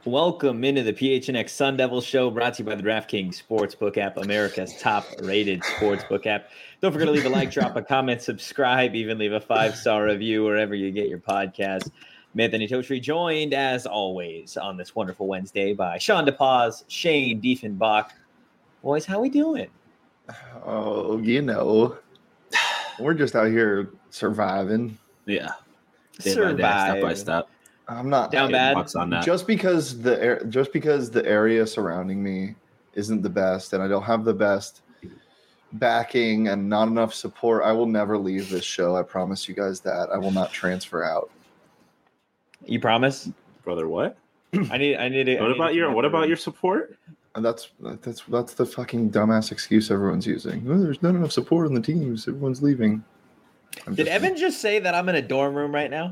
Welcome into the PHNX Sun Devil Show, brought to you by the DraftKings Sportsbook app, America's top-rated sportsbook app. Don't forget to leave a like, drop a comment, subscribe, even leave a 5-star review wherever you get your podcast. I'm Anthony Totri, joined as always on this wonderful Wednesday by Sean DePaz, Shane Diefenbach. Boys, how we doing? Oh, we're just out here surviving. Yeah, day by day, step by step. I'm not down bad. On that. Just because the area surrounding me isn't the best, and I don't have the best backing and not enough support, I will never leave this show. I promise you guys that. I will not transfer out. You promise, brother? What? I need it. What about your support? And that's the fucking dumbass excuse everyone's using. Oh, there's not enough support on the teams. Everyone's leaving. Did Evan just say that I'm in a dorm room right now?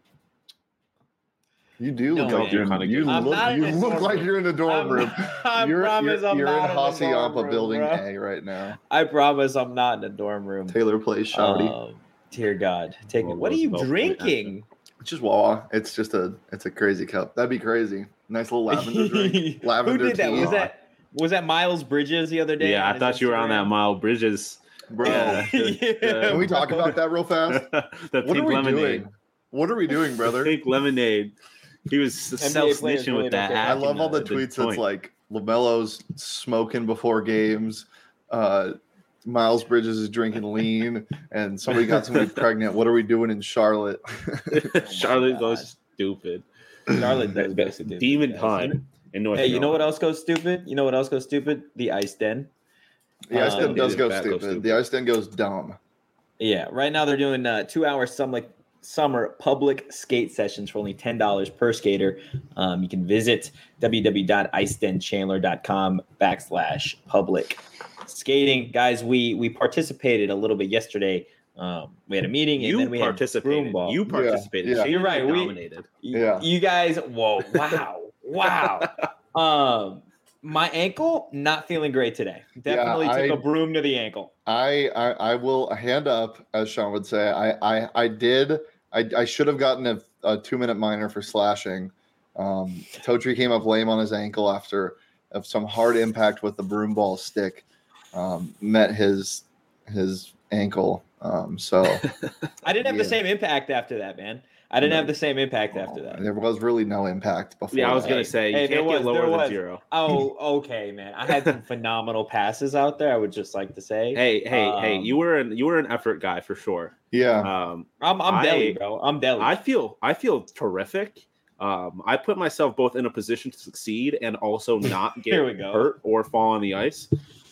You do look like you're in a dorm room. You're in Hacienda Building A right now. I promise I'm not in a dorm room. Taylor plays Shouty. Dear God, take it. What are you drinking? It's just Wawa. It's a crazy cup. That'd be crazy. Nice little lavender drink. Lavender. Who did that? Was that Miles Bridges the other day? Yeah, I thought you were on that Miles Bridges. Bro, can we talk about that real fast? What are we doing? What are we doing, brother? Pink lemonade. He was self-snitching with that. I love all the tweets that's like LaMelo's smoking before games. Miles Bridges is drinking lean, and somebody got somebody pregnant. What are we doing in Charlotte? Charlotte goes stupid. Charlotte goes stupid. Demon time in North Carolina. You know what else goes stupid? The Ice Den. The Ice Den does go stupid. The Ice Den goes dumb. Yeah, right now they're doing 2-hour summer public skate sessions for only $10 per skater. You can visit www.icedenchandler.com/public skating. Guys, we participated a little bit yesterday. We had a meeting and then we participated. Had broom ball. You participated. Yeah. You're right. We dominated. You guys, wow. My ankle not feeling great today. Definitely took a broom to the ankle. I will hand up, as Sean would say. I should have gotten a 2-minute minor for slashing. Totri came up lame on his ankle after some hard impact with the broom ball stick. Met his ankle. So I didn't have the same impact after that, man. There was really no impact before. Yeah, I was gonna say you can't get lower than 0. Oh, okay, man. I had some phenomenal passes out there. I would just like to say. Hey, you were an effort guy for sure. Yeah. I'm deli, bro. I'm deli. I feel terrific. I put myself both in a position to succeed and also not get hurt or fall on the ice.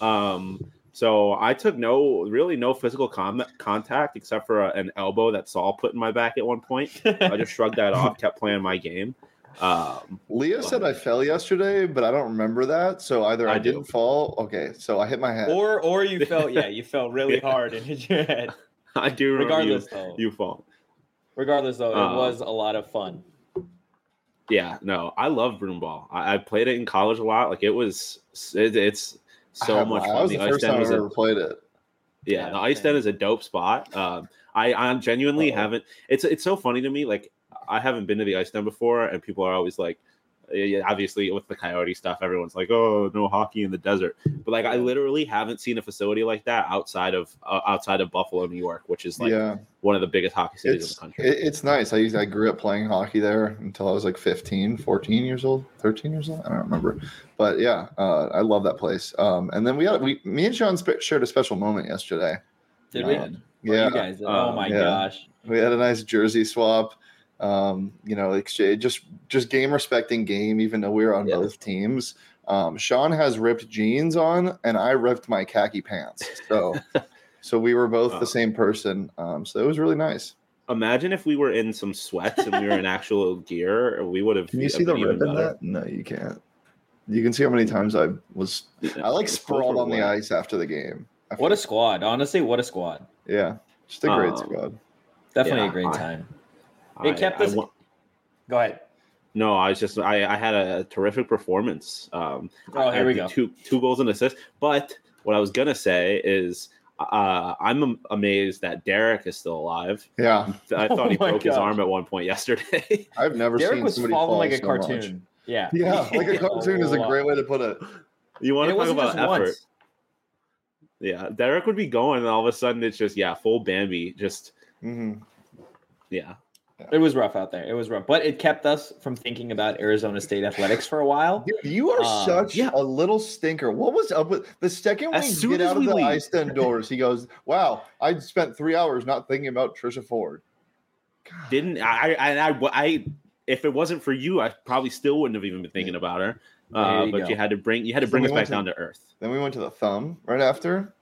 So I took no physical contact except for an elbow that Saul put in my back at one point. I just shrugged that off, kept playing my game. Leah said I fell yesterday, but I don't remember that. So either I didn't fall. Okay, so I hit my head, or you fell. Yeah, you fell really hard and hit your head. I do. Regardless, you fall. Regardless, though, it was a lot of fun. Yeah, no, I love broom ball. I played it in college a lot. Like it's so much fun. That was the first time I ever played it. Yeah, the Ice Den is a dope spot. I genuinely haven't. It's so funny to me. Like I haven't been to the Ice Den before, and people are always like, obviously with the Coyote stuff, everyone's like, oh, no hockey in the desert. But like, I literally haven't seen a facility like that outside of Buffalo, New York, which is like one of the biggest hockey cities in the country. It's nice. I grew up playing hockey there until I was like 15, 14 years old, 13 years old. I don't remember. But yeah, I love that place. And then me and Sean shared a special moment yesterday. Did we? Yeah. You guys, oh my gosh. We had a nice jersey swap. Exchange, just game respecting game, even though we were on both teams. Sean has ripped jeans on, and I ripped my khaki pants. So we were both the same person. So it was really nice. Imagine if we were in some sweats and we were in actual gear, we would have. Can you see the rip in that? No, you can't. You can see how many times I sprawled on the ice after the game. What a squad. Honestly, what a squad. Yeah. Just a great squad. Definitely a great time. It kept us. Go ahead. No, I had a terrific performance. Here we go. Two goals and assists. But what I was gonna say is, I'm amazed that Derek is still alive. Yeah, I thought he broke his arm at one point yesterday. I've never Derek seen was somebody falling fall like a so cartoon. Yeah. Yeah, like a cartoon is a great way to put it. You want And to it talk wasn't about just effort? once. Yeah, Derek would be going, and all of a sudden it's just full Bambi. Just yeah. It was rough out there. It was rough, but it kept us from thinking about Arizona State athletics for a while. Dude, you are such a little stinker. What was up with the second we get out of the ice den doors? He goes, "Wow, I spent 3 hours not thinking about Trisha Ford." God. Didn't I? If it wasn't for you, I probably still wouldn't have even been thinking about her. But you had to bring us back down to earth. Then we went to the Thumb right after.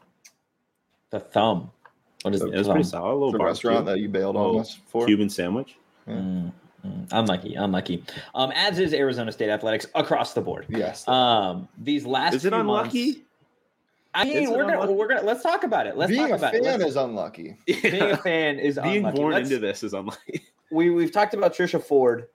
The Thumb. What is it? It was pretty solid. A little the restaurant that you bailed on us for. Cuban sandwich. Yeah. Unlucky. As is Arizona State athletics across the board. Yes. These last is it few unlucky? Months, I mean, we're gonna let's talk about it. Being a fan is unlucky. Being a fan is being unlucky. born into this is unlucky. We've talked about Trisha Ford.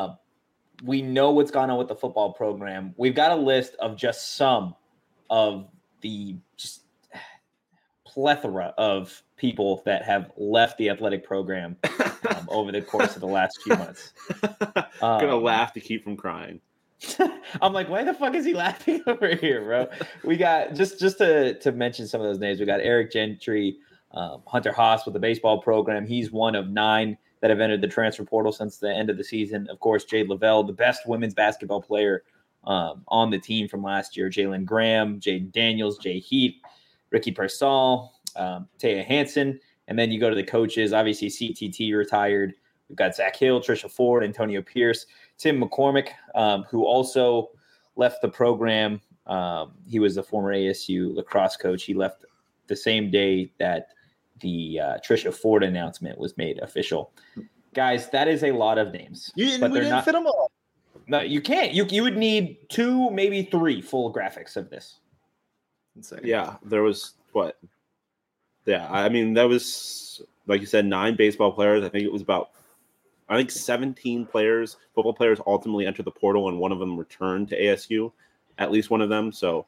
We know what's gone on with the football program. We've got a list of just some of the just plethora of people that have left the athletic program over the course of the last few months. Gonna laugh to keep from crying. I'm like, why the fuck is he laughing over here, bro? We got just to mention some of those names. We got Eric Gentry, Hunter Haas with the baseball program. He's one of 9 that have entered the transfer portal since the end of the season. Of course, Jade Lavelle, the best women's basketball player on the team from last year. Jalen Graham, Jaden Daniels, Jay Heath, Ricky Persall, Taya Hansen. And then you go to the coaches. Obviously, CTT retired. We've got Zach Hill, Trisha Ford, Antonio Pierce, Tim McCormick, who also left the program. He was a former ASU lacrosse coach. He left the same day that the Trisha Ford announcement was made official. Guys, that is a lot of names. But we didn't fit them all. No, you can't. You would need 2, maybe 3 full graphics of this. Insane. Yeah, there was what? Yeah, I mean, that was, like you said, 9 baseball players. I think it was about 17 players, football players ultimately entered the portal, and one of them returned to ASU, at least one of them. So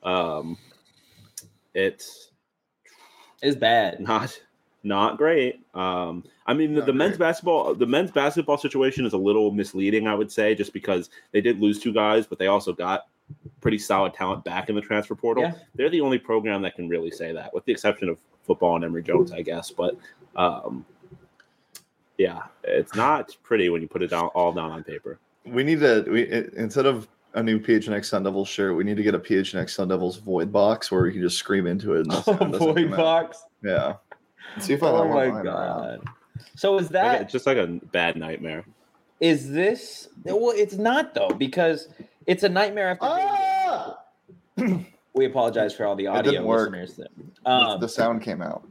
it's bad. Not great. I mean, the men's basketball situation is a little misleading, I would say, just because they did lose 2 guys, but they also got pretty solid talent back in the transfer portal. Yeah. They're the only program that can really say that, with the exception of football and Emory Jones, I guess. But yeah, it's not pretty when you put it all down on paper. We need to instead of a new PHNX Sun Devils shirt, we need to get a PHNX Sun Devils void box where we can just scream into it. And void box. Yeah. Let's see if I have my god. So is that it's just like a bad nightmare? Is this? Well, it's not though, because it's a nightmare after. We apologize for all the audio listeners. The sound came out.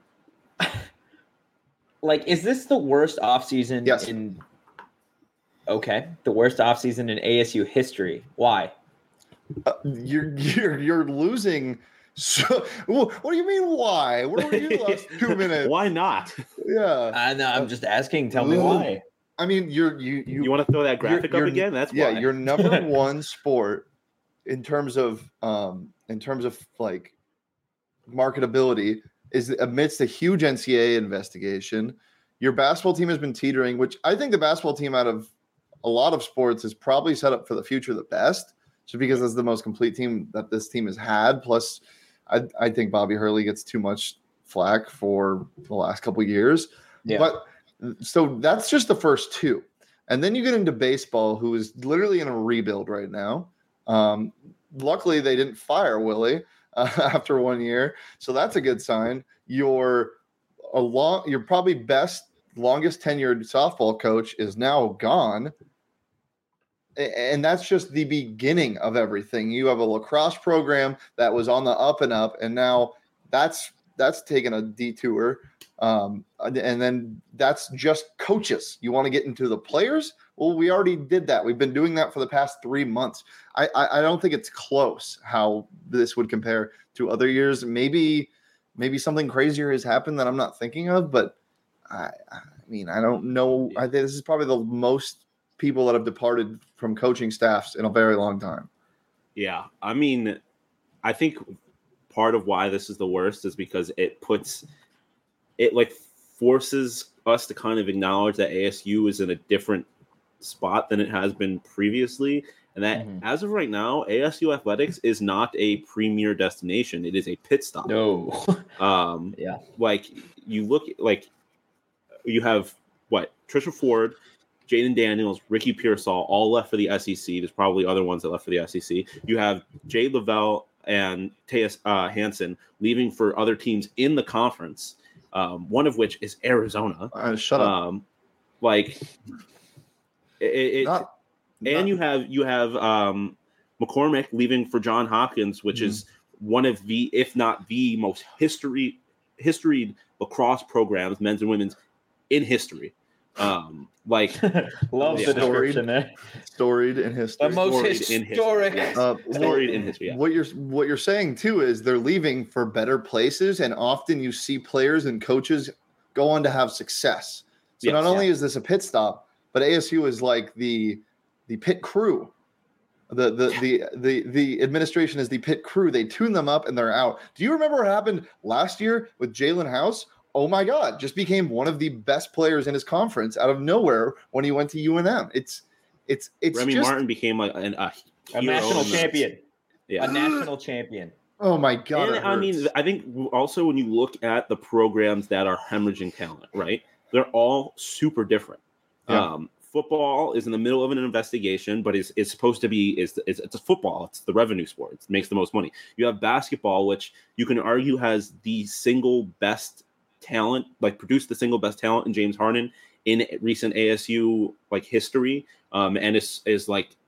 Like, is this the worst offseason in? Okay, the worst offseason in ASU history. Why? You're losing. So, what do you mean? Why? Where were you the last 2 minutes? Why not? Yeah, no, I'm just asking. Tell me why. I mean, you want to throw that graphic up again? That's why. Your number one sport in terms of like marketability is amidst a huge NCAA investigation. Your basketball team has been teetering, which I think the basketball team out of a lot of sports is probably set up for the future the best, just because it's the most complete team that this team has had. Plus, I think Bobby Hurley gets too much flack for the last couple of years. Yeah. But so that's just the first 2. And then you get into baseball, who is literally in a rebuild right now. Luckily, they didn't fire Willie after 1 year. So that's a good sign. Your probably longest tenured softball coach is now gone. And that's just the beginning of everything. You have a lacrosse program that was on the up and up, and now that's taken a detour. And then that's just coaches. You want to get into the players? Well, we already did that. We've been doing that for the past 3 months. I don't think it's close how this would compare to other years. Maybe something crazier has happened that I'm not thinking of, but I mean, I don't know. I think this is probably the most people that have departed from coaching staffs in a very long time. Yeah. I mean, I think part of why this is the worst is because it forces us to kind of acknowledge that ASU is in a different spot than it has been previously. And that as of right now, ASU athletics is not a premier destination. It is a pit stop. No. Like you look like you have Trisha Ford, Jaden Daniels, Ricky Pearsall, all left for the SEC. There's probably other ones that left for the SEC. You have Jay Lavelle and Tejas Hansen leaving for other teams in the conference. One of which is Arizona. Shut up. And you have McCormick leaving for John Hopkins, which is one of the, if not the most historied lacrosse programs, men's and women's, in history. Love the description there. Storied in history. The most historic. Storied in history. Yeah. What you're saying too is they're leaving for better places, and often you see players and coaches go on to have success. So not only is this a pit stop, but ASU is like the pit crew. The administration is the pit crew. They tune them up and they're out. Do you remember what happened last year with Jalen House? Oh my God, just became one of the best players in his conference out of nowhere when he went to UNM. It's Remy Martin became a national champion. Yeah. A national champion. Oh my God. And I mean, I think also when you look at the programs that are hemorrhaging talent, right? They're all super different. Yeah. Football is in the middle of an investigation, but it's supposed to be it's a football. It's the revenue sport. It makes the most money. You have basketball, which you can argue has the single best talent, produced the single best talent in James Harden in recent ASU history. And it's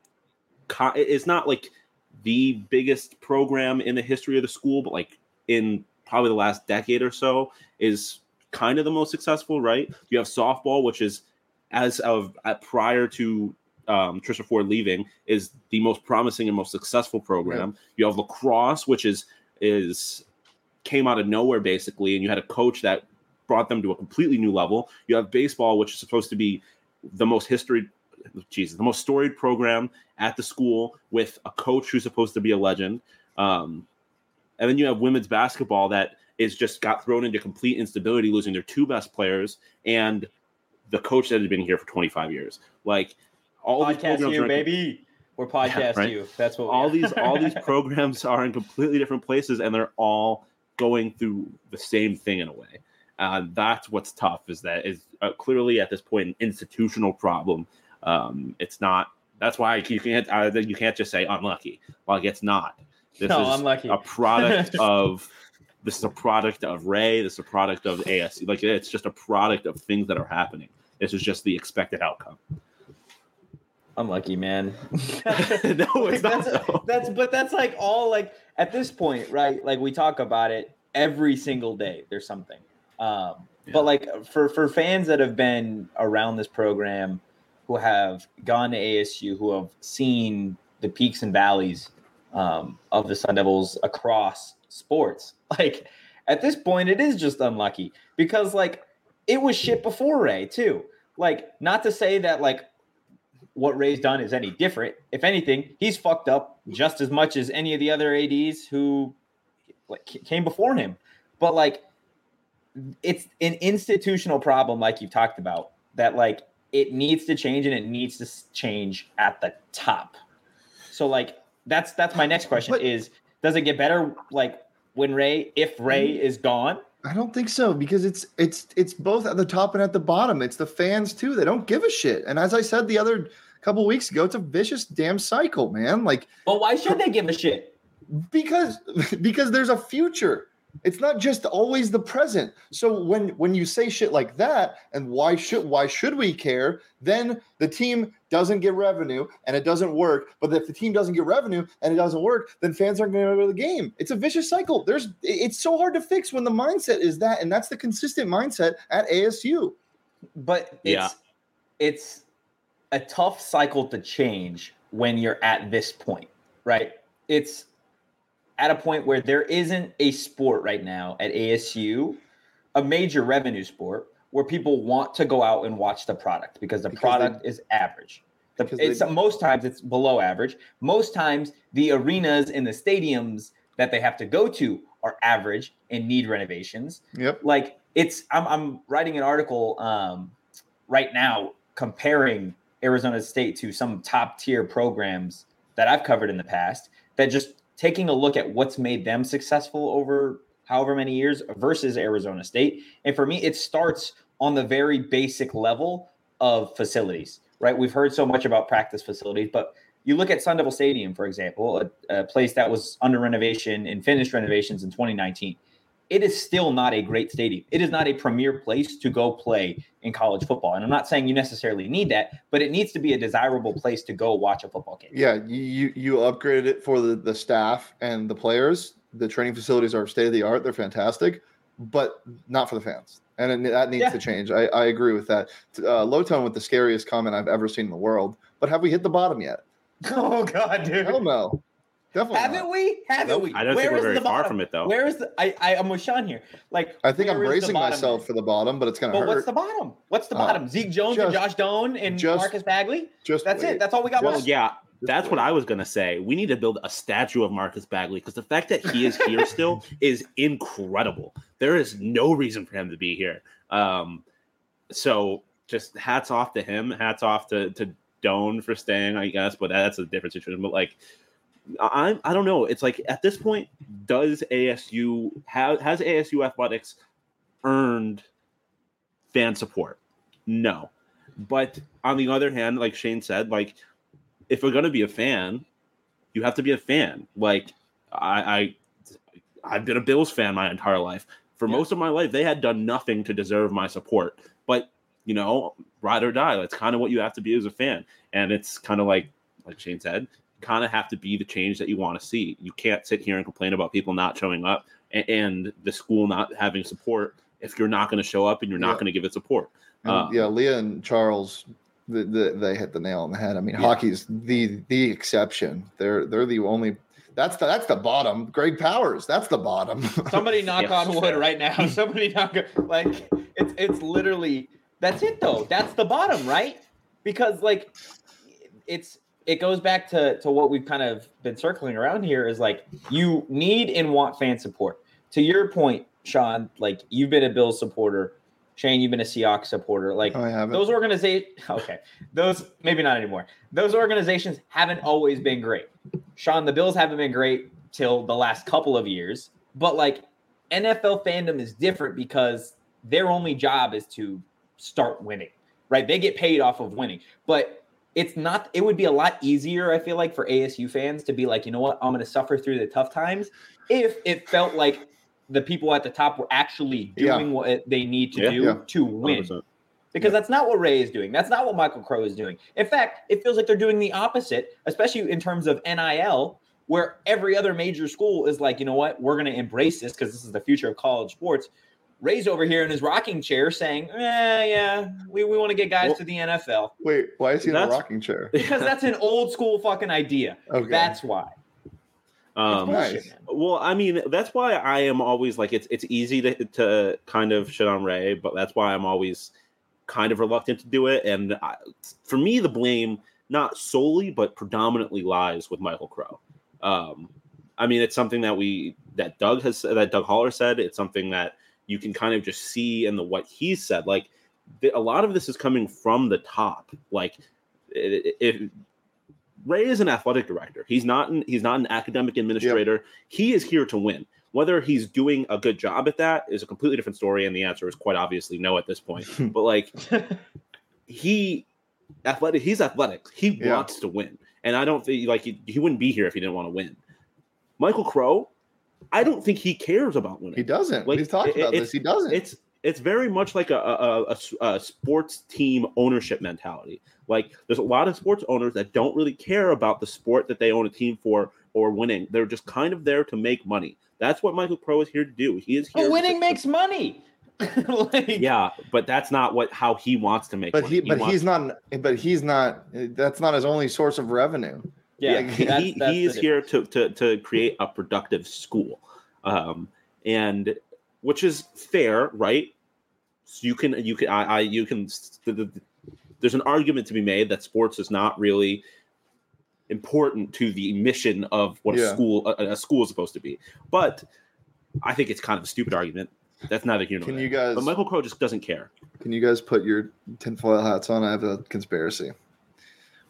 not like the biggest program in the history of the school, but in probably the last decade or so is kind of the most successful, right? You have softball, which is prior to Trisha Ford leaving, is the most promising and most successful program. Yeah. You have lacrosse, which came out of nowhere basically, and you had a coach that brought them to a completely new level. You have baseball, which is supposed to be the most storied program at the school with a coach who's supposed to be a legend. And then you have women's basketball that is just got thrown into complete instability, losing their two best players and the coach that had been here for 25 years. All podcast these programs you, baby. We're podcast you. That's what all these programs are in completely different places, and they're all going through the same thing in a way. That's what's tough. Is clearly at this point an institutional problem. It's not. That's why you can't just say unlucky. It's not. This is unlucky. A product of. This is a product of Ray. This is a product of ASU. It's just a product of things that are happening. This is just the expected outcome. Unlucky, man. No, it's not. That's all at this point, right? We talk about it every single day. There's something. But for fans that have been around this program, who have gone to ASU, who have seen the peaks and valleys of the Sun Devils across sports, at this point it is just unlucky because it was shit before Ray too. Not to say that what Ray's done is any different. If anything, he's fucked up just as much as any of the other ADs who came before him. But it's an institutional problem, you've talked about, that it needs to change, and it needs to change at the top. So that's my next question: is does it get better if Ray is gone? I don't think so, because it's both at the top and at the bottom. It's the fans too. They don't give a shit. And as I said the other couple weeks ago, it's a vicious damn cycle, man. Well, why should they give a shit? Because there's a future. It's not just always the present. So when you say shit like that, and why should we care? Then the team doesn't get revenue and it doesn't work. But if the team doesn't get revenue and it doesn't work, then fans aren't going to go to the game. It's a vicious cycle. It's so hard to fix when the mindset is that, and that's the consistent mindset at ASU. But it's a tough cycle to change when you're at this point, right? It's at a point where there isn't a sport right now at ASU, a major revenue sport, where people want to go out and watch the product because the product is average. Most times it's below average. Most times the arenas and the stadiums that they have to go to are average and need renovations. Yep. I'm writing an article right now comparing Arizona State to some top tier programs that I've covered in the past, that just taking a look at what's made them successful over however many years versus Arizona State. And for me, it starts on the very basic level of facilities, right? We've heard so much about practice facilities, but you look at Sun Devil Stadium, for example, a place that was under renovation and finished renovations in 2019. It is still not a great stadium. It is not a premier place to go play in college football. And I'm not saying you necessarily need that, but it needs to be a desirable place to go watch a football game. Yeah, you upgraded it for the staff and the players. The training facilities are state of the art. They're fantastic, but not for the fans. And that needs to change. I agree with that. Low Tone with the scariest comment I've ever seen in the world. But have we hit the bottom yet? Oh, God, dude. Hell no. Definitely Haven't we? Haven't we? I don't think we're very far from it, though. Where is the I'm with Sean here. Like, I think I'm bracing myself for the bottom, but it's going to hurt. But what's the bottom? What's the bottom? Zeke Jones and Josh Doan and Marcus Bagley? That's it. That's all we got. Well, yeah. That's what I was going to say. We need to build a statue of Marcus Bagley because the fact that he is here still is incredible. There is no reason for him to be here. So just hats off to him. Hats off to Doan for staying, I guess, but that's a different situation. But like, I don't know. It's like at this point, has ASU athletics earned fan support? No. But on the other hand, like Shane said, like if we're gonna be a fan, you have to be a fan. Like I've been a Bills fan my entire life. For most of my life, they had done nothing to deserve my support. But ride or die. That's kind of what you have to be as a fan. And it's kind of like Shane said, kind of have to be the change that you want to see. You can't sit here and complain about people not showing up and the school not having support if you're not going to show up and you're not going to give it support. Leah and Charles, they hit the nail on the head. I mean, hockey's the exception. They're the only. That's the bottom. Greg Powers, that's the bottom. Somebody knock on wood right now. Somebody knock like it's literally that's it though. That's the bottom, right? Because like it goes back to what we've kind of been circling around here is like you need and want fan support. To your point, Sean, like you've been a Bills supporter. Shane, you've been a Seahawks supporter. Like those organizations, okay, those maybe not anymore. Those organizations haven't always been great. Sean, the Bills haven't been great till the last couple of years, but like NFL fandom is different because their only job is to start winning, right? They get paid off of winning, but it's not, it would be a lot easier, I feel like, for ASU fans to be like, you know what, I'm going to suffer through the tough times if it felt like the people at the top were actually doing what they need to do to win. 100%. Because that's not what Ray is doing. That's not what Michael Crow is doing. In fact, it feels like they're doing the opposite, especially in terms of NIL, where every other major school is like, you know what, we're going to embrace this because this is the future of college sports. Ray's over here in his rocking chair saying, we want to get guys to the NFL. Wait, why is he in a rocking chair? Because that's an old school fucking idea. Okay. That's why. Nice. Well, I mean, that's why I am always like, it's easy to kind of shit on Ray, but that's why I'm always kind of reluctant to do it. And for me, the blame not solely, but predominantly lies with Michael Crow. I mean, it's something that Doug Holler said. It's something that you can kind of just see in what he said. Like a lot of this is coming from the top. Like if Ray is an athletic director, he's not an academic administrator. Yep. He is here to win. Whether he's doing a good job at that is a completely different story, and the answer is quite obviously no at this point. But like he's athletic. He wants to win. And I don't think he wouldn't be here if he didn't want to win. Michael Crow, I don't think he cares about winning. He doesn't. Like, he's talked about this. He doesn't. It's very much like a sports team ownership mentality. Like there's a lot of sports owners that don't really care about the sport that they own a team for or winning. They're just kind of there to make money. That's what Michael Crow is here to do. He is here. But winning makes money. Yeah, but that's not how he wants to make money. He's not. That's not his only source of revenue. Yeah, he is here to create a productive school, and which is fair, right? So you can. There's an argument to be made that sports is not really important to the mission of what a school is supposed to be. But I think it's kind of a stupid argument. That's neither here nor there. But Michael Crow just doesn't care. Can you guys put your tinfoil hats on? I have a conspiracy.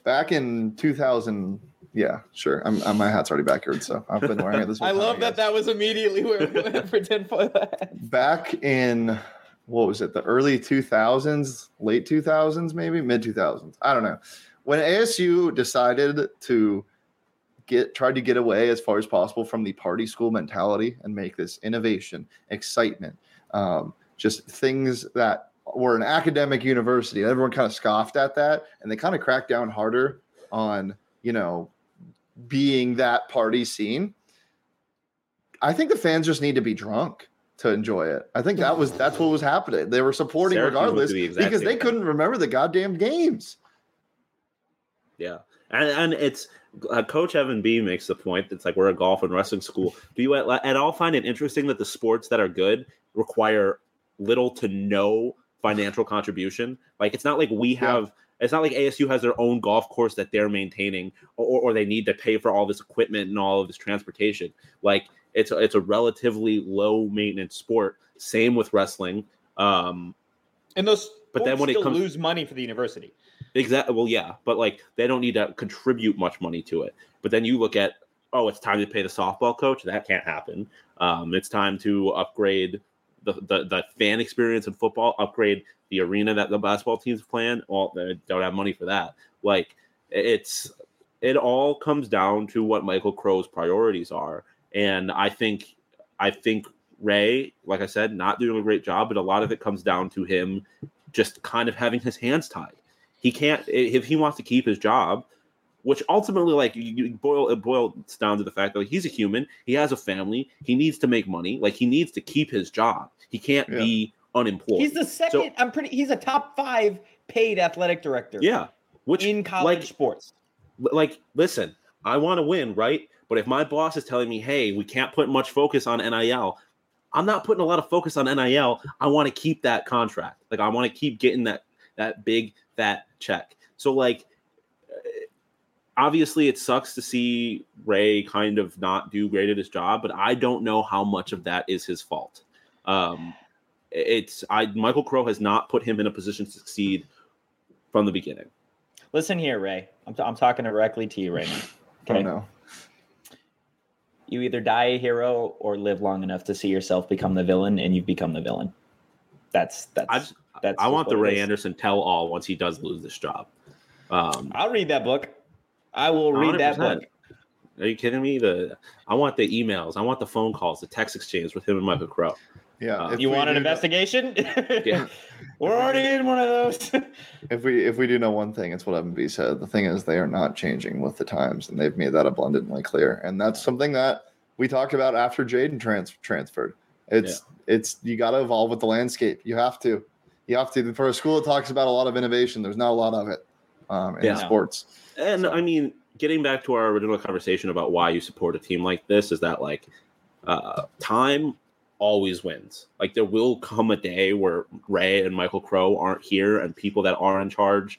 back in 2000. Yeah, sure. My hat's already backwards, so I've been wearing it this whole I time, love that was immediately where we went for tinfoil hat. Back in, what was it, the early 2000s, late 2000s, maybe mid 2000s. I don't know. When ASU decided to tried to get away as far as possible from the party school mentality and make this innovation, excitement, just things that were an academic university. Everyone kind of scoffed at that, and they kind of cracked down harder on, being that party scene. I think the fans just need to be drunk to enjoy it. I think that's what was happening. They were supporting Syracuse regardless because they thing. couldn't remember the goddamn games. Yeah. And it's Coach Evan B makes the point that's like, we're a golf and wrestling school. Do you at all find it interesting that the sports that are good require little to no financial contribution? Like, it's not like it's not like ASU has their own golf course that they're maintaining, or they need to pay for all this equipment and all of this transportation. Like, it's a relatively low maintenance sport. Same with wrestling. And those but then when it comes, lose money for the university. Exactly. Well, yeah, but like they don't need to contribute much money to it. But then you look at, it's time to pay the softball coach. That can't happen. It's time to upgrade the fan experience in football, upgrade the arena that the basketball teams play in. Well, they don't have money for that. Like, it all comes down to what Michael Crow's priorities are. And I think Ray, like I said, not doing a great job, but a lot of it comes down to him just kind of having his hands tied. He can't, if he wants to keep his job, which ultimately, like, it boils down to the fact that, like, he's a human. He has a family. He needs to make money. Like, he needs to keep his job. He can't be unemployed. He's the second. He's a top 5 paid athletic director. Yeah, which in college sports. Like, listen, I want to win, right? But if my boss is telling me, hey, we can't put much focus on NIL, I'm not putting a lot of focus on NIL. I want to keep that contract. Like, I want to keep getting that big fat check. So, like, obviously it sucks to see Ray kind of not do great at his job, but I don't know how much of that is his fault. Michael Crow has not put him in a position to succeed from the beginning. Listen here, Ray. I'm talking directly to you right now. Okay. Oh, no. You either die a hero or live long enough to see yourself become the villain, and you've become the villain. I want the Ray Anderson tell-all once he does lose this job. I'll read that book. I will read 100%. That book. Are you kidding me? I want the emails. I want the phone calls, the text exchange with him and Michael Crow. Yeah. You want an investigation? Yeah. We're already in one of those. If we do know one thing, it's what Evan B said. The thing is, they are not changing with the times, and they've made that abundantly clear. And that's something that we talked about after Jaden transferred. It's you got to evolve with the landscape. You have to. For a school that talks about a lot of innovation, there's not a lot of it in sports. And I mean, getting back to our original conversation about why you support a team like this is that, like, time always wins. Like, there will come a day where Ray and Michael Crow aren't here, and people that are in charge,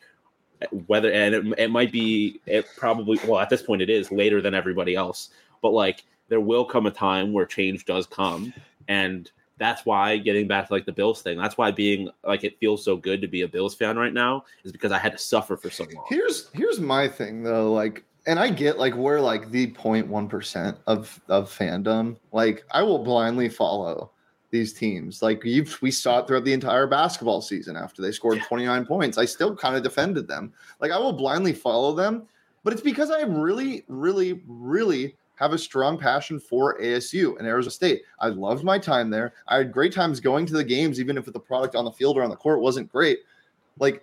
it might be, at this point it is later than everybody else, but like, there will come a time where change does come. And that's why, getting back to like the Bills thing, that's why being like, it feels so good to be a Bills fan right now, is because I had to suffer for so long. Here's my thing though, like, and I get, like, we're like the 0.1% of fandom. Like, I will blindly follow these teams. Like, we saw it throughout the entire basketball season. After they scored 29 points, I still kind of defended them. Like, I will blindly follow them, but it's because I really, really, really have a strong passion for ASU and Arizona State. I loved my time there. I had great times going to the games, even if the product on the field or on the court wasn't great. Like,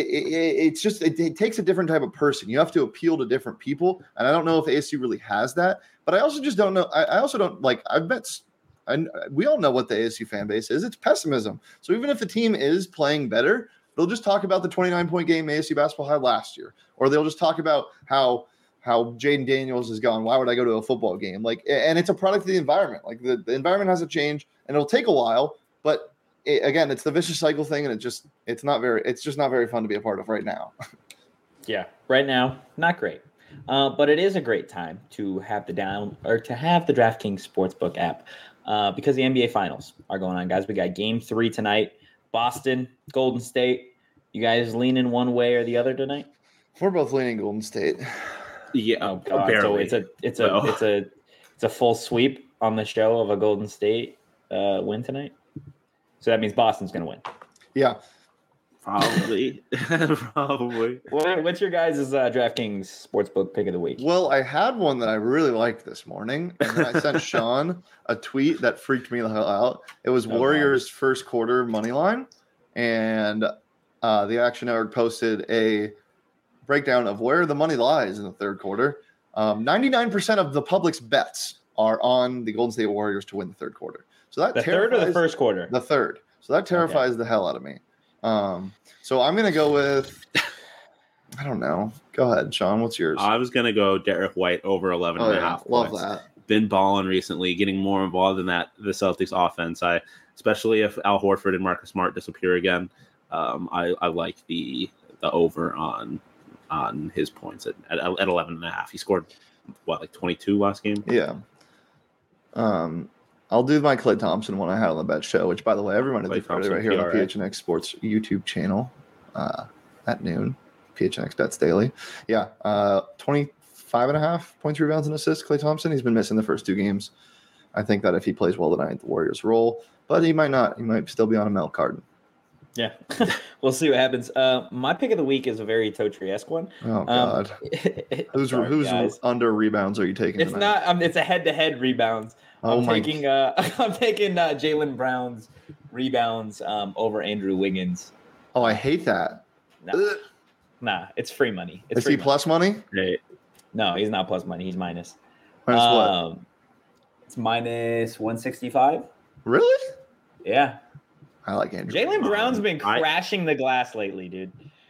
it takes a different type of person. You have to appeal to different people. And I don't know if ASU really has that, but I also just don't know. I also don't, like, we all know what the ASU fan base is. It's pessimism. So even if the team is playing better, they'll just talk about the 29-point game ASU basketball had last year, or they'll just talk about how Jaden Daniels is gone. Why would I go to a football game? Like, and it's a product of the environment. Like, the environment has to change, and it'll take a while, but again, it's the vicious cycle thing, and it's just not very fun to be a part of right now. Yeah, right now, not great. But it is a great time to have the DraftKings Sportsbook app because the NBA Finals are going on, guys. We got Game 3 tonight, Boston, Golden State. You guys leaning one way or the other tonight? We're both leaning Golden State. Yeah, Oh God! barely. So it's a full sweep on the show of a Golden State win tonight. So that means Boston's going to win. Yeah. Probably. Probably. What's your guys' DraftKings Sportsbook pick of the week? Well, I had one that I really liked this morning, and then I sent Sean a tweet that freaked me the hell out. It was Warriors' first quarter money line, and the Action Network posted a breakdown of where the money lies in the third quarter. 99% of the public's bets are on the Golden State Warriors to win the third quarter. So that the third or the first quarter? The third. So that terrifies the hell out of me. So I'm going to go with, I don't know. Go ahead, Sean. What's yours? I was going to go Derek White over 11 and a half Love points. that. Been balling recently, getting more involved in the Celtics offense. Especially if Al Horford and Marcus Smart disappear again. I like the over on his points at 11 and a half. He scored like 22 last game? Yeah. I'll do my Klay Thompson one I had on the bet show, which, by the way, everyone is right here on the PHNX Sports YouTube channel at noon. PHNX Bets Daily. Yeah. 25 and a half points, rebounds, and assists. Klay Thompson. He's been missing the first two games. I think that if he plays well tonight, the Warriors roll, but he might not. He might still be on a milk carton. Yeah, we'll see what happens. My pick of the week is a very Totri-esque one. Oh God, who's under rebounds are you taking? It's tonight? Not. It's a head-to-head rebounds. I'm taking Jaylen Brown's rebounds over Andrew Wiggins. Oh, I hate that. Nah, it's free money. Is he plus money? No, he's not plus money. He's minus. Minus what? It's minus 165. Really? Yeah. I like Andrew. Jaylen Brown's been crashing the glass lately, dude.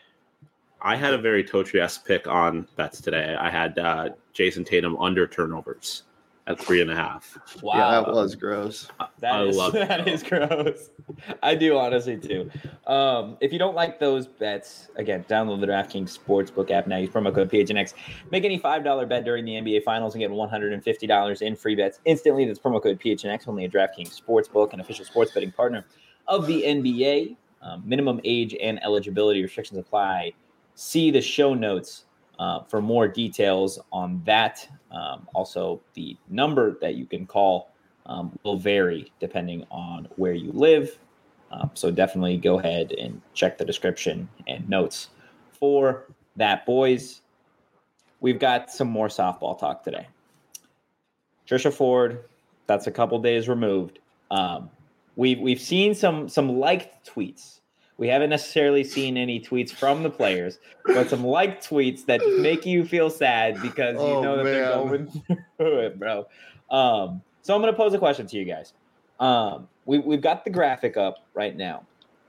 I had a very Totri-esque pick on bets today. I had Jason Tatum under turnovers at 3.5. Wow. Yeah, that was gross. That is gross. I do honestly too. If you don't like those bets, again, download the DraftKings Sportsbook app now. Use promo code PHNX. Make any $5 bet during the NBA Finals and get $150 in free bets instantly. That's promo code PHNX, only at DraftKings Sportsbook, an official sports betting partner of the NBA. Minimum age and eligibility restrictions apply. See the show notes for more details on that. Also, the number that you can call will vary depending on where you live. So definitely go ahead and check the description and notes for that, boys. We've got some more softball talk today. Trisha Ford, that's a couple days removed. We've seen some liked tweets. We haven't necessarily seen any tweets from the players, but some liked tweets that make you feel sad because you know that they're going through it, bro. So I'm going to pose a question to you guys. We've got the graphic up right now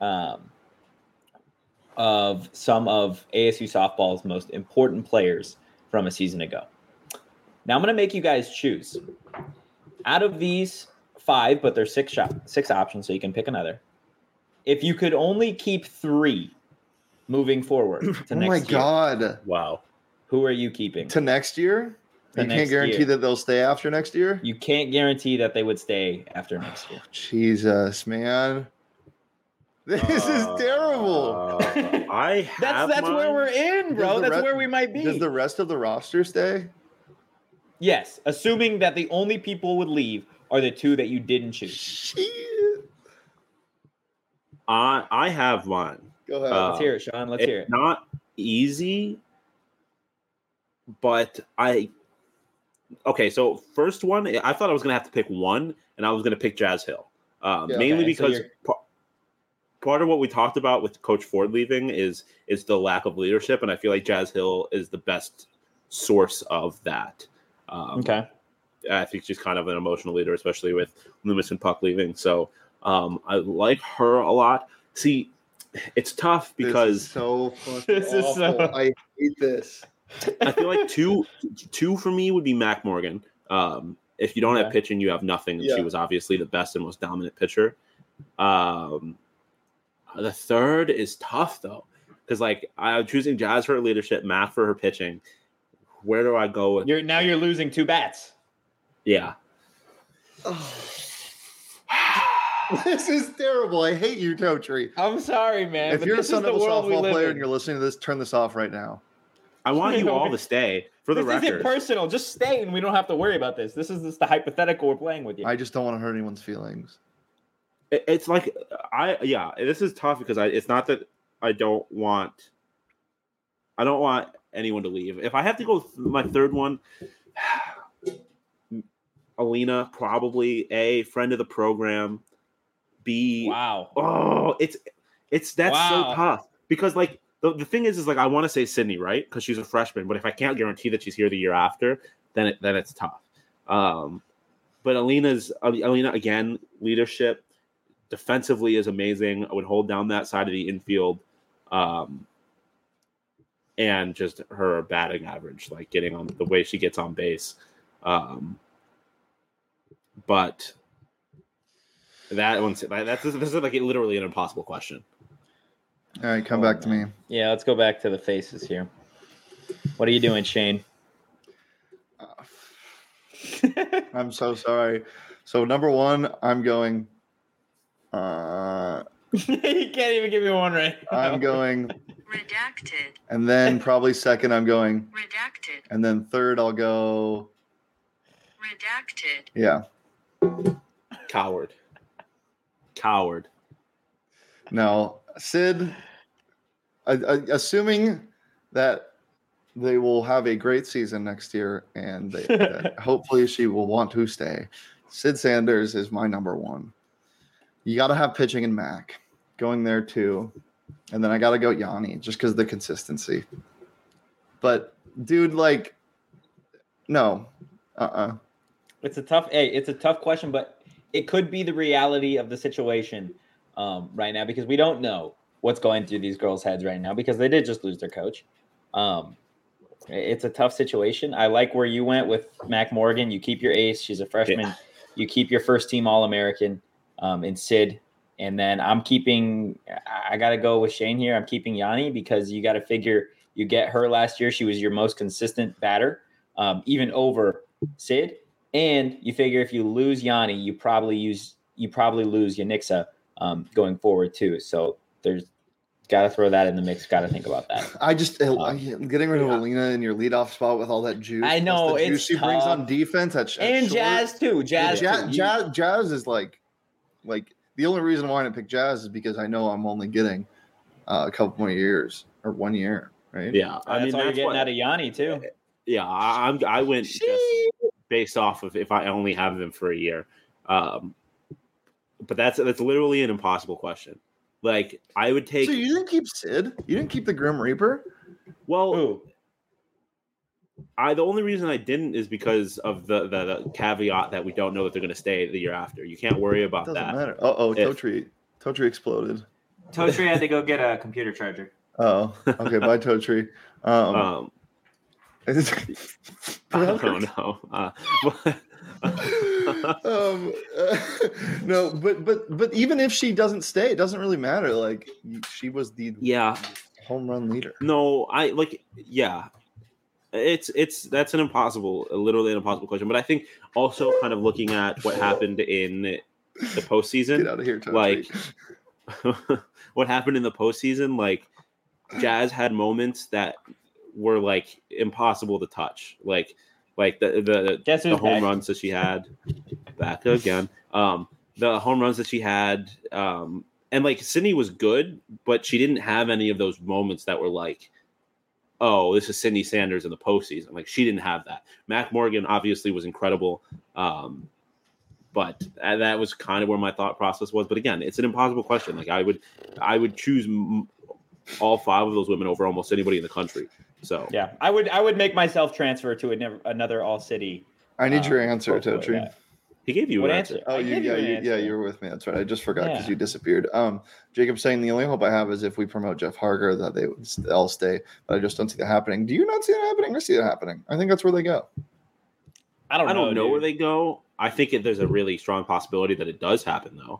of some of ASU softball's most important players from a season ago. Now I'm going to make you guys choose. Out of these 5, but there's 6 options, so you can pick another. If you could only keep 3 moving forward to next year. Oh my God. Wow. Who are you keeping? To next year? You can't guarantee that they'll stay after next year? You can't guarantee that they would stay after next year. Jesus, man. This is terrible. That's where we're in, bro. That's where we might be. Does the rest of the roster stay? Yes, assuming that the only people would leave are the 2 that you didn't choose. Shit. I have one. Go ahead. Let's hear it, Sean. Let's hear it. Not easy, but okay, so first one, I thought I was going to have to pick one, and I was going to pick Jazz Hill. Mainly because part of what we talked about with Coach Ford leaving is the lack of leadership, and I feel like Jazz Hill is the best source of that. Okay. I think she's kind of an emotional leader, especially with Loomis and Puck leaving. So I like her a lot. See, it's tough because this is so fucking awful. I hate this. I feel like two for me would be Mac Morgan. If you don't have pitching, you have nothing. And she was obviously the best and most dominant pitcher. The third is tough though, because like I'm choosing Jazz for her leadership, Mac for her pitching. Where do I go with? You're losing 2 bats. Yeah. This is terrible. I hate you, Totri. I'm sorry, man. If you're a Son Devil softball player and you're listening to this, turn this off right now. I want you all to stay for the This isn't record. personal. Just stay, and we don't have to worry about this. This is just the hypothetical we're playing with you. I just don't want to hurt anyone's feelings. It's like this is tough because it's not that I don't want anyone to leave. If I have to go with my third one, Alina, probably A, friend of the program, B. Wow. Oh, that's so tough because like the thing is like I want to say Sydney, right? Because she's a freshman, but if I can't guarantee that she's here the year after, then it's tough. But Alina again, leadership. Defensively is amazing. I would hold down that side of the infield, and just her batting average, like getting on the way she gets on base. But that one's this is like literally an impossible question. All right, come back to me. Yeah, let's go back to the faces here. What are you doing, Shane? I'm so sorry. So number one, I'm going. You can't even give me one right now. I'm going Redacted. And then probably second, I'm going Redacted. And then third, I'll go Redacted. Yeah. Coward. No, Sid. Assuming that they will have a great season next year, and that hopefully she will want to stay. Sid Sanders is my number one. You got to have pitching in Mac going there too. And then I got to go Yanni just because of the consistency. But, dude, like, no. It's a tough question, but it could be the reality of the situation right now because we don't know what's going through these girls' heads right now because they did just lose their coach. It's a tough situation. I like where you went with Mac Morgan. You keep your ace. She's a freshman. Yeah. You keep your first team All-American in Sid. And then I got to go with Shane here. I'm keeping Yanni because you got to figure you get her last year. She was your most consistent batter, even over Sid. And you figure if you lose Yanni, you probably lose Yanixa going forward too. So there's got to throw that in the mix. Got to think about that. Getting rid of Alina in your leadoff spot with all that juice. I know the juice she brings on defense. And Jazz too. Jazz is like the only reason why I didn't pick Jazz is because I know I'm only getting a couple more years or 1 year, right? Yeah, that's all you're getting out of Yanni too. Yeah, I went just based off of if I only have them for a year. But that's literally an impossible question. Like I would take. So you didn't keep Sid? You didn't keep the Grim Reaper? Well, the only reason I didn't is because of the caveat that we don't know that they're going to stay the year after. You can't worry about that. Doesn't matter. Totri exploded. Totri had to go get a computer charger. Oh, okay. Bye, Totri. I don't know. No, but even if she doesn't stay, it doesn't really matter. Like she was the home run leader. No, that's literally an impossible question. But I think also kind of looking at what happened in the postseason. Get out of here, Totri. Like what happened in the postseason, like Jazz had moments that were like impossible to touch. Like the home runs that she had back again. The home runs that she had, and like Sydney was good, but she didn't have any of those moments that were like, oh, this is Sydney Sanders in the postseason. Like she didn't have that. Mac Morgan obviously was incredible. But that was kind of where my thought process was. But again, it's an impossible question. Like I would choose all five of those women over almost anybody in the country. So yeah, I would make myself transfer to another all city. I need your answer, Totri. He gave you an answer. Oh, you were with me. That's right. I just forgot because you disappeared. Jacob saying the only hope I have is if we promote Jeff Harger that they would all stay, but I just don't see that happening. Do you not see that happening? I see that happening. I think that's where they go. I don't know where they go. I think there's a really strong possibility that it does happen, though.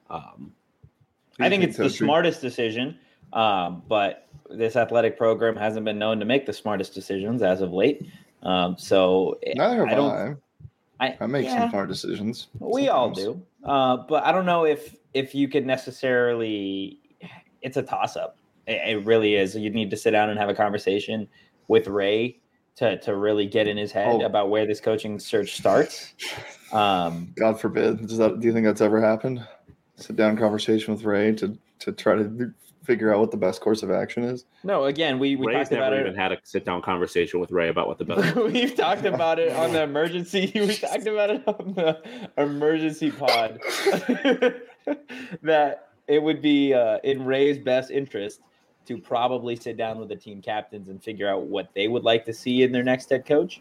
I think it's the smartest decision, but this athletic program hasn't been known to make the smartest decisions as of late. So neither have I. I make some hard decisions. We all do. But I don't know if you could necessarily – it's a toss-up. It really is. You'd need to sit down and have a conversation. with Ray to really get in his head about where this coaching search starts. God forbid. Do you think that's ever happened? Sit down conversation with Ray to try to figure out what the best course of action is? No, again, we Ray's talked about never it. even had a sit down conversation with Ray about what the best. We've talked about it on the emergency. We talked about it on the emergency pod that it would be in Ray's best interest to probably sit down with the team captains and figure out what they would like to see in their next head coach.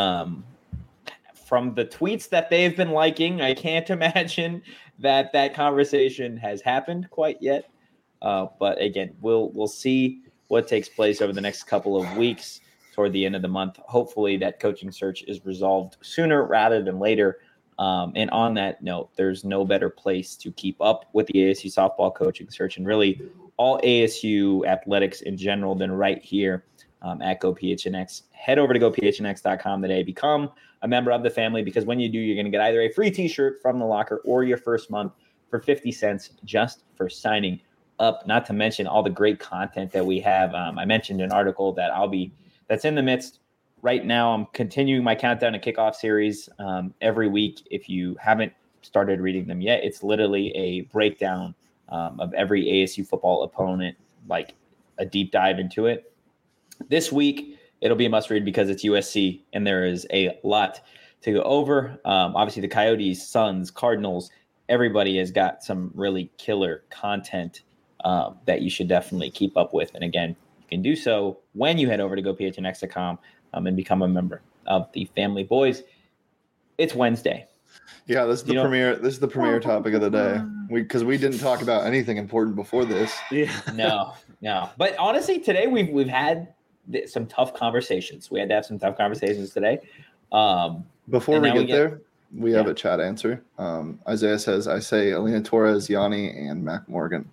From the tweets that they've been liking, I can't imagine that conversation has happened quite yet. But again, we'll see what takes place over the next couple of weeks toward the end of the month. Hopefully that coaching search is resolved sooner rather than later. And on that note, there's no better place to keep up with the ASU softball coaching search and really all ASU athletics in general than right here at GoPHNX. Head over to gophnx.com today. Become a member of the family, because when you do, you're going to get either a free t-shirt from the locker or your first month for 50 cents just for signing up, not to mention all the great content that we have. I mentioned an article that's in the midst right now. I'm continuing my countdown to kickoff series every week. If you haven't started reading them yet, it's literally a breakdown of every ASU football opponent, like a deep dive into it. This week, it'll be a must read because it's USC and there is a lot to go over. Obviously the Coyotes, Suns, Cardinals, everybody has got some really killer content that you should definitely keep up with. And again, you can do so when you head over to gophnx.com and become a member of the family. Boys, it's Wednesday. Yeah, this is the premiere. This is the premiere topic of the day. Because we didn't talk about anything important before this. Yeah. No. But honestly, today we've had some tough conversations. We had to have some tough conversations today. Before we get there, we have a chat answer. Isaiah says, I say Alina Torres, Yanni, and Mac Morgan.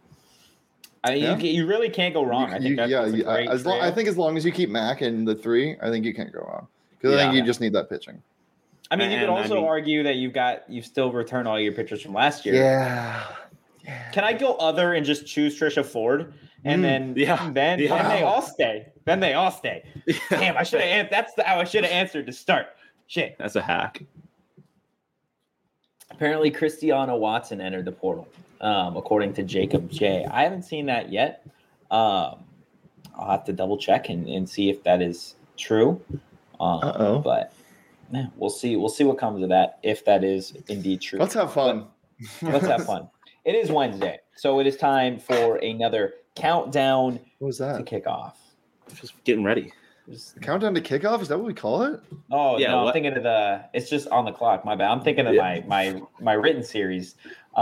You really can't go wrong. I think that's a great I think as long as you keep Mac in the 3, I think you can't go wrong. Because I think you just need that pitching. I mean, you could also argue that you still return all your pitchers from last year. Yeah. Can I go other and just choose Trisha Ford? And then they all stay. Then they all stay. Damn, I should have. That's how I should have answered to start. Shit. That's a hack. Apparently, Christiana Watson entered the portal, according to Jacob J. I haven't seen that yet. I'll have to double check and see if that is true. But yeah, we'll see. We'll see what comes of that if that is indeed true. Let's have fun. Let's have fun. It is Wednesday, so it is time for another countdown What was that? to kick off. Just getting ready. The countdown to kickoff? Is that what we call it? Oh yeah, no, I'm thinking of it's just on the clock. My bad. I'm thinking of my written series. You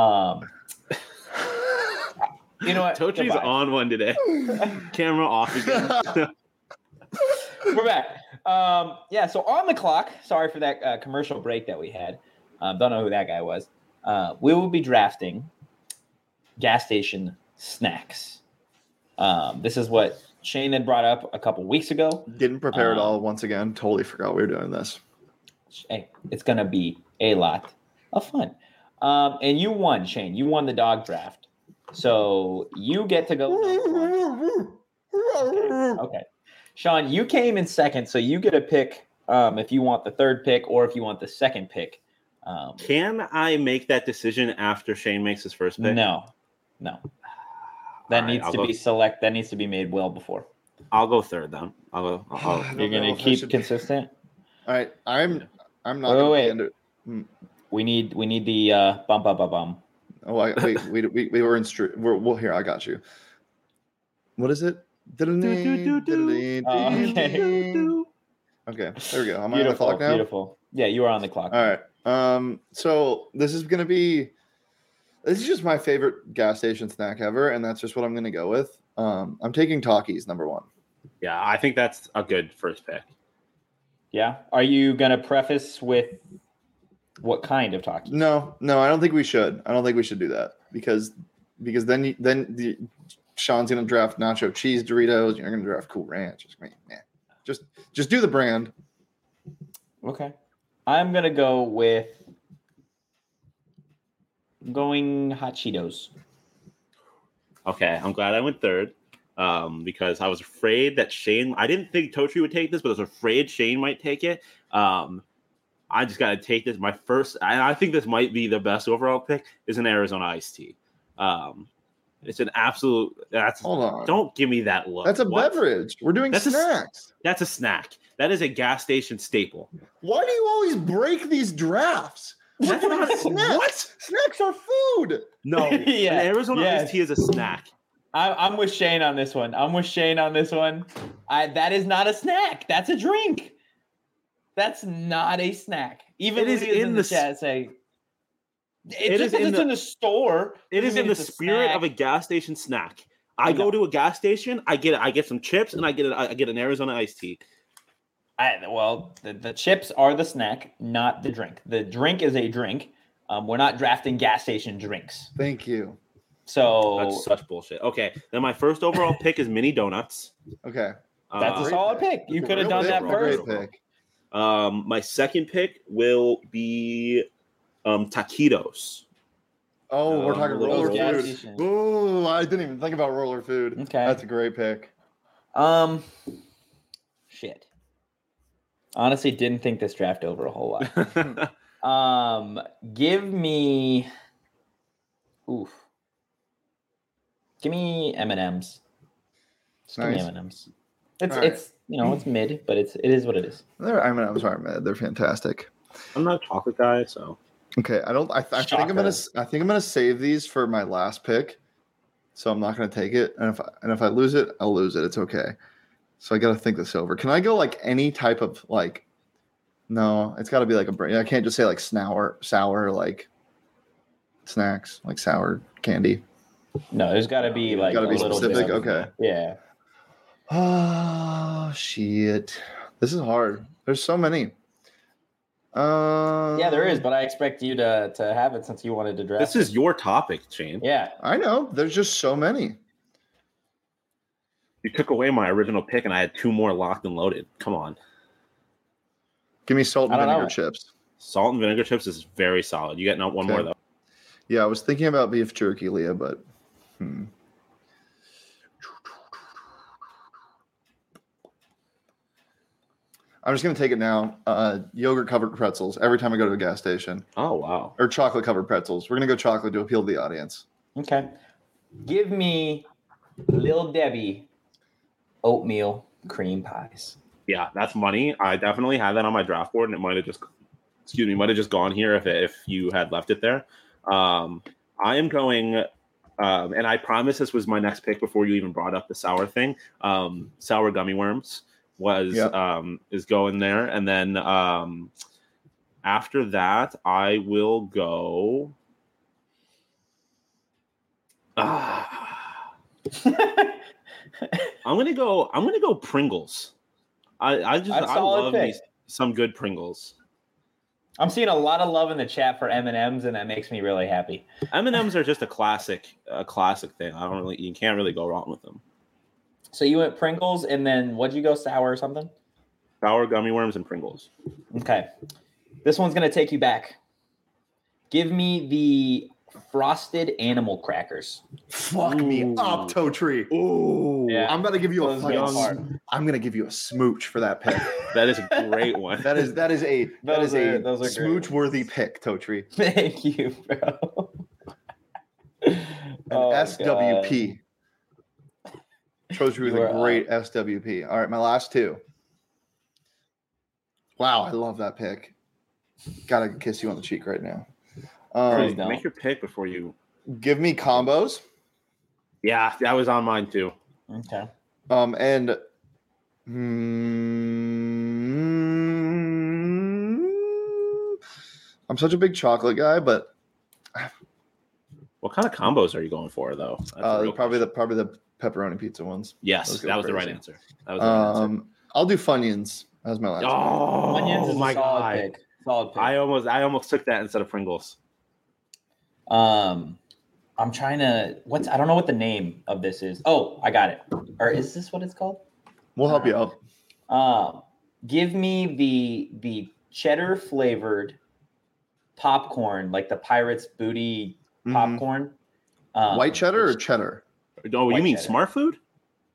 know what? Tochi's on one today. Camera off again. We're back. So on the clock. Sorry for that commercial break that we had. Don't know who that guy was. We will be drafting gas station snacks. This is what Shane had brought up a couple weeks ago. Didn't prepare at all. Once again, totally forgot we were doing this. Hey, it's gonna be a lot of fun. And you won, Shane. You won the dog draft, so you get to go. Okay. Sean, you came in second, so you get a pick if you want the third pick or if you want the second pick. Can I make that decision after Shane makes his first pick? No. That needs to be select. That needs to be made well before. I'll go third then. You're gonna keep consistent. All right, I'm not. Wait. We need the bum. Oh, wait. We were in street. We're here. I got you. What is it? Okay. Okay, there we go. Am I on the clock now? Beautiful. Yeah, you are on the clock. All right. So this is just my favorite gas station snack ever, and that's just what I'm gonna go with. I'm taking Takis number 1. Yeah, I think that's a good first pick. Yeah. Are you gonna preface with what kind of Takis? No, I don't think we should. I don't think we should do that because then Sean's gonna draft nacho cheese Doritos. You're gonna draft Cool Ranch. Just do the brand. Okay. I'm gonna go with hot Cheetos. Okay, I'm glad I went third. because I was afraid that Shane. I didn't think Totri would take this, but I was afraid Shane might take it. I just got to take this. My first, and I think this might be the best overall pick, is an Arizona iced tea. It's an absolute. Hold on. Don't give me that look. That's a What? beverage. We're doing snacks. That's a snack. That is a gas station staple. Why do you always break these drafts? That's not a snack. What? Snacks are food. No, Yeah, an Arizona yes. iced tea is a snack. I'm with Shane on this one. That is not a snack. That's a drink. That's not a snack. Even It is Leah's in the the chat say It just is because it's in the store. It is doesn't in mean the it's a spirit snack. of a gas station snack. I No. go to a gas station, I get some chips, and I get an Arizona iced tea. The chips are the snack, not the drink. The drink is a drink. We're not drafting gas station drinks. Thank you. So That's such bullshit. Okay, then my first overall pick is mini donuts. Okay. that's a Great solid pick. pick. You That's a could have real done pick. that first. Great pick. My second pick will be taquitos. Oh, we're talking little roller gas food. station. Ooh, I didn't even think about roller food. Okay. That's a great pick. Shit. Honestly, didn't think this draft over a whole lot. Give me M&Ms. Just give me Nice. M&Ms. All right. It's it's mid, but it is what it is. I'm sorry, man. They're fantastic. I'm not a chocolate guy, so Okay, I think I'm gonna save these for my last pick, so I'm not gonna take it. And if I lose it, I'll lose it. It's okay. So I gotta think this over. Can I go like any type of like? No, it's got to be like a brand. I can't just say like sour like snacks, like sour candy. No, there's got to be like Gotta a be little specific? bit of- Okay. Yeah. Oh shit! This is hard. There's so many. Yeah, there is, but I expect you to have it since you wanted to draft. this is your topic, Shane. Yeah. I know. There's just so many. You took away my original pick, and I had two more locked and loaded. Come on, Give me salt I and don't vinegar know. chips. salt and vinegar chips is very solid. You get one more Okay. though. Yeah, I was thinking about beef jerky, Leah, but I'm just gonna take it now. Yogurt covered pretzels every time I go to a gas station, Oh wow. or chocolate covered pretzels. We're gonna go chocolate to appeal to the audience. Okay. Give me Lil Debbie oatmeal cream pies. Yeah, that's money. I definitely had that on my draft board, and it might have just gone here if you had left it there. I am going, and I promise this was my next pick before you even brought up the sour thing. Sour gummy worms is going there, and then after that, I will go. I'm gonna go Pringles. I solid love pick. some good Pringles. I'm seeing a lot of love in the chat for M&Ms, and that makes me really happy. M&Ms are just a classic thing. You can't really go wrong with them. So you went Pringles, and then what'd you go, sour or something? Sour gummy worms and Pringles. Okay. This one's going to take you back. Give me the frosted animal crackers. Fuck me Ooh. up, Toe Tree. Ooh, Yeah. I'm gonna give you a Those go hard. fucking. I'm gonna give you a smooch for that pick. that is a great one. that is a Those are great smooch worthy pick, Toe Tree. Thank you, bro. An Oh, SWP. Toe Tree was You a are great SWP. All right, my last two. Wow, I love that pick. Gotta kiss you on the cheek right now. Please don't. Make your pick before you. Give me combos. Yeah, that was on mine too. Okay. And I'm such a big chocolate guy, but What kind of combos are you going for though? That's a real probably question. the pepperoni pizza ones. Yes, those go that was the right crazy. answer. That was the right answer. I'll do Funyuns as my last. Oh Onions is my a solid god! pick. Solid pick. I almost took that instead of Pringles. I'm trying to. I don't know what the name of this is. Oh, I got it. Or is this what it's called? We'll help you out. Give me the cheddar flavored popcorn, like the Pirates Booty Mhm. popcorn. White cheddar or cheddar? Oh, you White mean cheddar. Smart Food?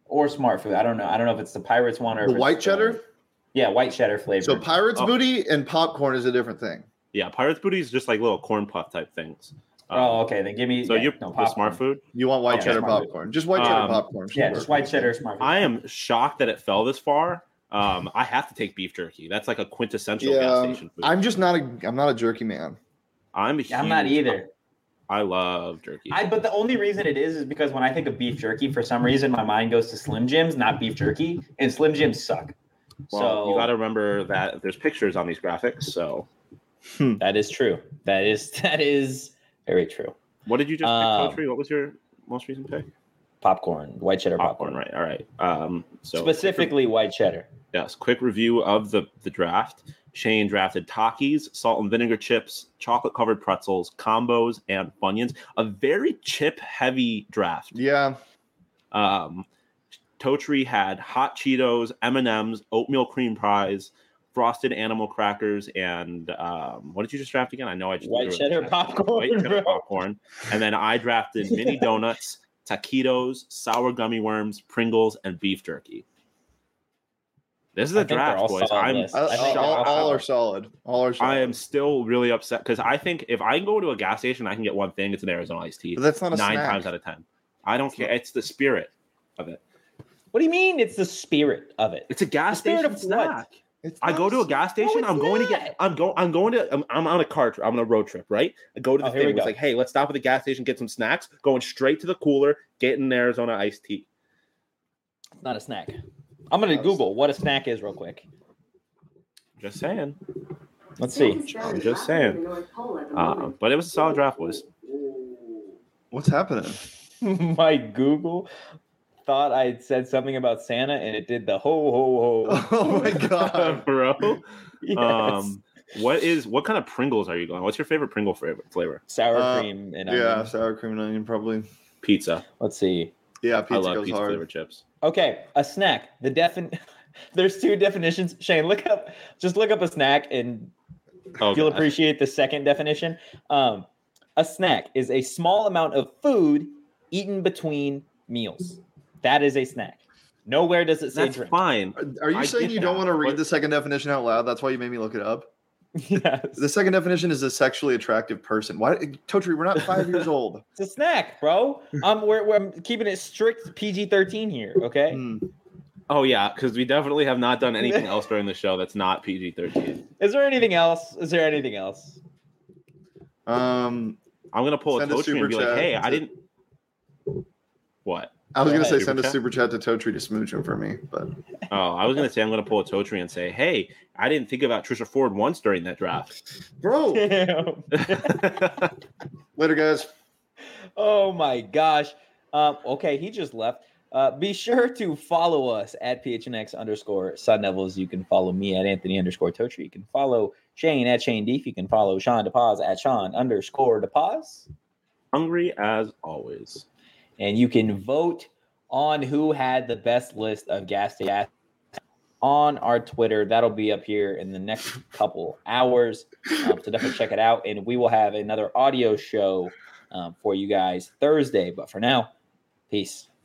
or Smart Food. I don't know. I don't know if it's the Pirates one or The if it's white cheddar? Yeah, white cheddar flavor. So Pirates Booty and popcorn is a different thing. Yeah, Pirates Booty is just like little corn puff type things. Oh, okay. Then give me. So you the Smart Food. You want white Yeah, cheddar Smart Food. popcorn? Just white cheddar popcorn. Yeah, just white cheddar Smart Food. I am shocked that it fell this far. I have to take beef jerky. That's like a quintessential gas station food. I'm not a jerky man. I'm not either. I love jerky. But the only reason it is because when I think of beef jerky, for some reason my mind goes to Slim Jims, not beef jerky, and Slim Jims suck. Well, so you got to remember that there's pictures on these graphics. So that is true. That is very true. What did you just pick, Totri? What was your most recent pick? Popcorn, white cheddar popcorn. Right. All right. So specifically white cheddar. Yes. Quick review of the draft. Shane drafted Takis, salt and vinegar chips, chocolate covered pretzels, combos, and Funyuns. A very chip heavy draft. Yeah. Totri had hot Cheetos, M&Ms, oatmeal cream pies, frosted animal crackers, and what did you just draft again? I know I just white cheddar popcorn. White cheddar popcorn. And then I drafted mini donuts, taquitos, sour gummy worms, Pringles, and beef jerky. This is a draft, boys. All are solid. I am still really upset because I think if I go to a gas station, I can get one thing. It's an Arizona iced tea. But that's not a 9 snack. times out of 10. I don't care. It's the spirit of it. What do you mean? It's the spirit of it. It's a gas The spirit station of snack. what? I go to a gas station. No, I'm on a car trip. I'm on a road trip, right? I go to the thing. It's like, hey, let's stop at the gas station, get some snacks. Going straight to the cooler, getting an Arizona iced tea. It's not a snack. I'm gonna Google what a snack is real quick. Just saying. Let's see. I'm just saying. But it was a solid draft, boys. What's happening? My Google thought I'd said something about Santa, and it did the ho ho ho. Oh my god, bro! Yes. What kind of Pringles are you going? What's your favorite Pringle flavor? Sour cream and onion. Sour cream and onion probably. Pizza. Let's see. Yeah, pizza I love goes pizza hard. flavored chips. Okay, a snack. There's 2 definitions. Shane, look up a snack, and you'll appreciate the second definition. A snack is a small amount of food eaten between meals. That is a snack. Nowhere does it say That's drink. fine. Are you saying you don't want to read the second definition out loud? That's why you made me look it up? Yes. The second definition is a sexually attractive person. Why, Totri? We're not 5 years old. It's a snack, bro. I'm keeping it strict PG-13 here, okay? Oh yeah, because we definitely have not done anything else during the show that's not PG-13. Is there anything else? I'm gonna pull a Totri and be like, hey, I didn't. What? I was gonna say send a super chat to Totri to smooch him for me, but I was gonna say I'm gonna pull a Totri and say, hey, I didn't think about Trisha Ford once during that draft, bro. Later, guys. Oh my gosh. Okay, he just left. Be sure to follow us at PHNX_Sun Devils. You can follow me at Anthony_Totri. You can follow Shane at Shane Deef. You can follow Sean DePaz at Sean_DePaz. Hungry as always. And you can vote on who had the best list of gas stations on our Twitter. That'll be up here in the next couple hours. So definitely check it out. And we will have another audio show for you guys Thursday. But for now, peace.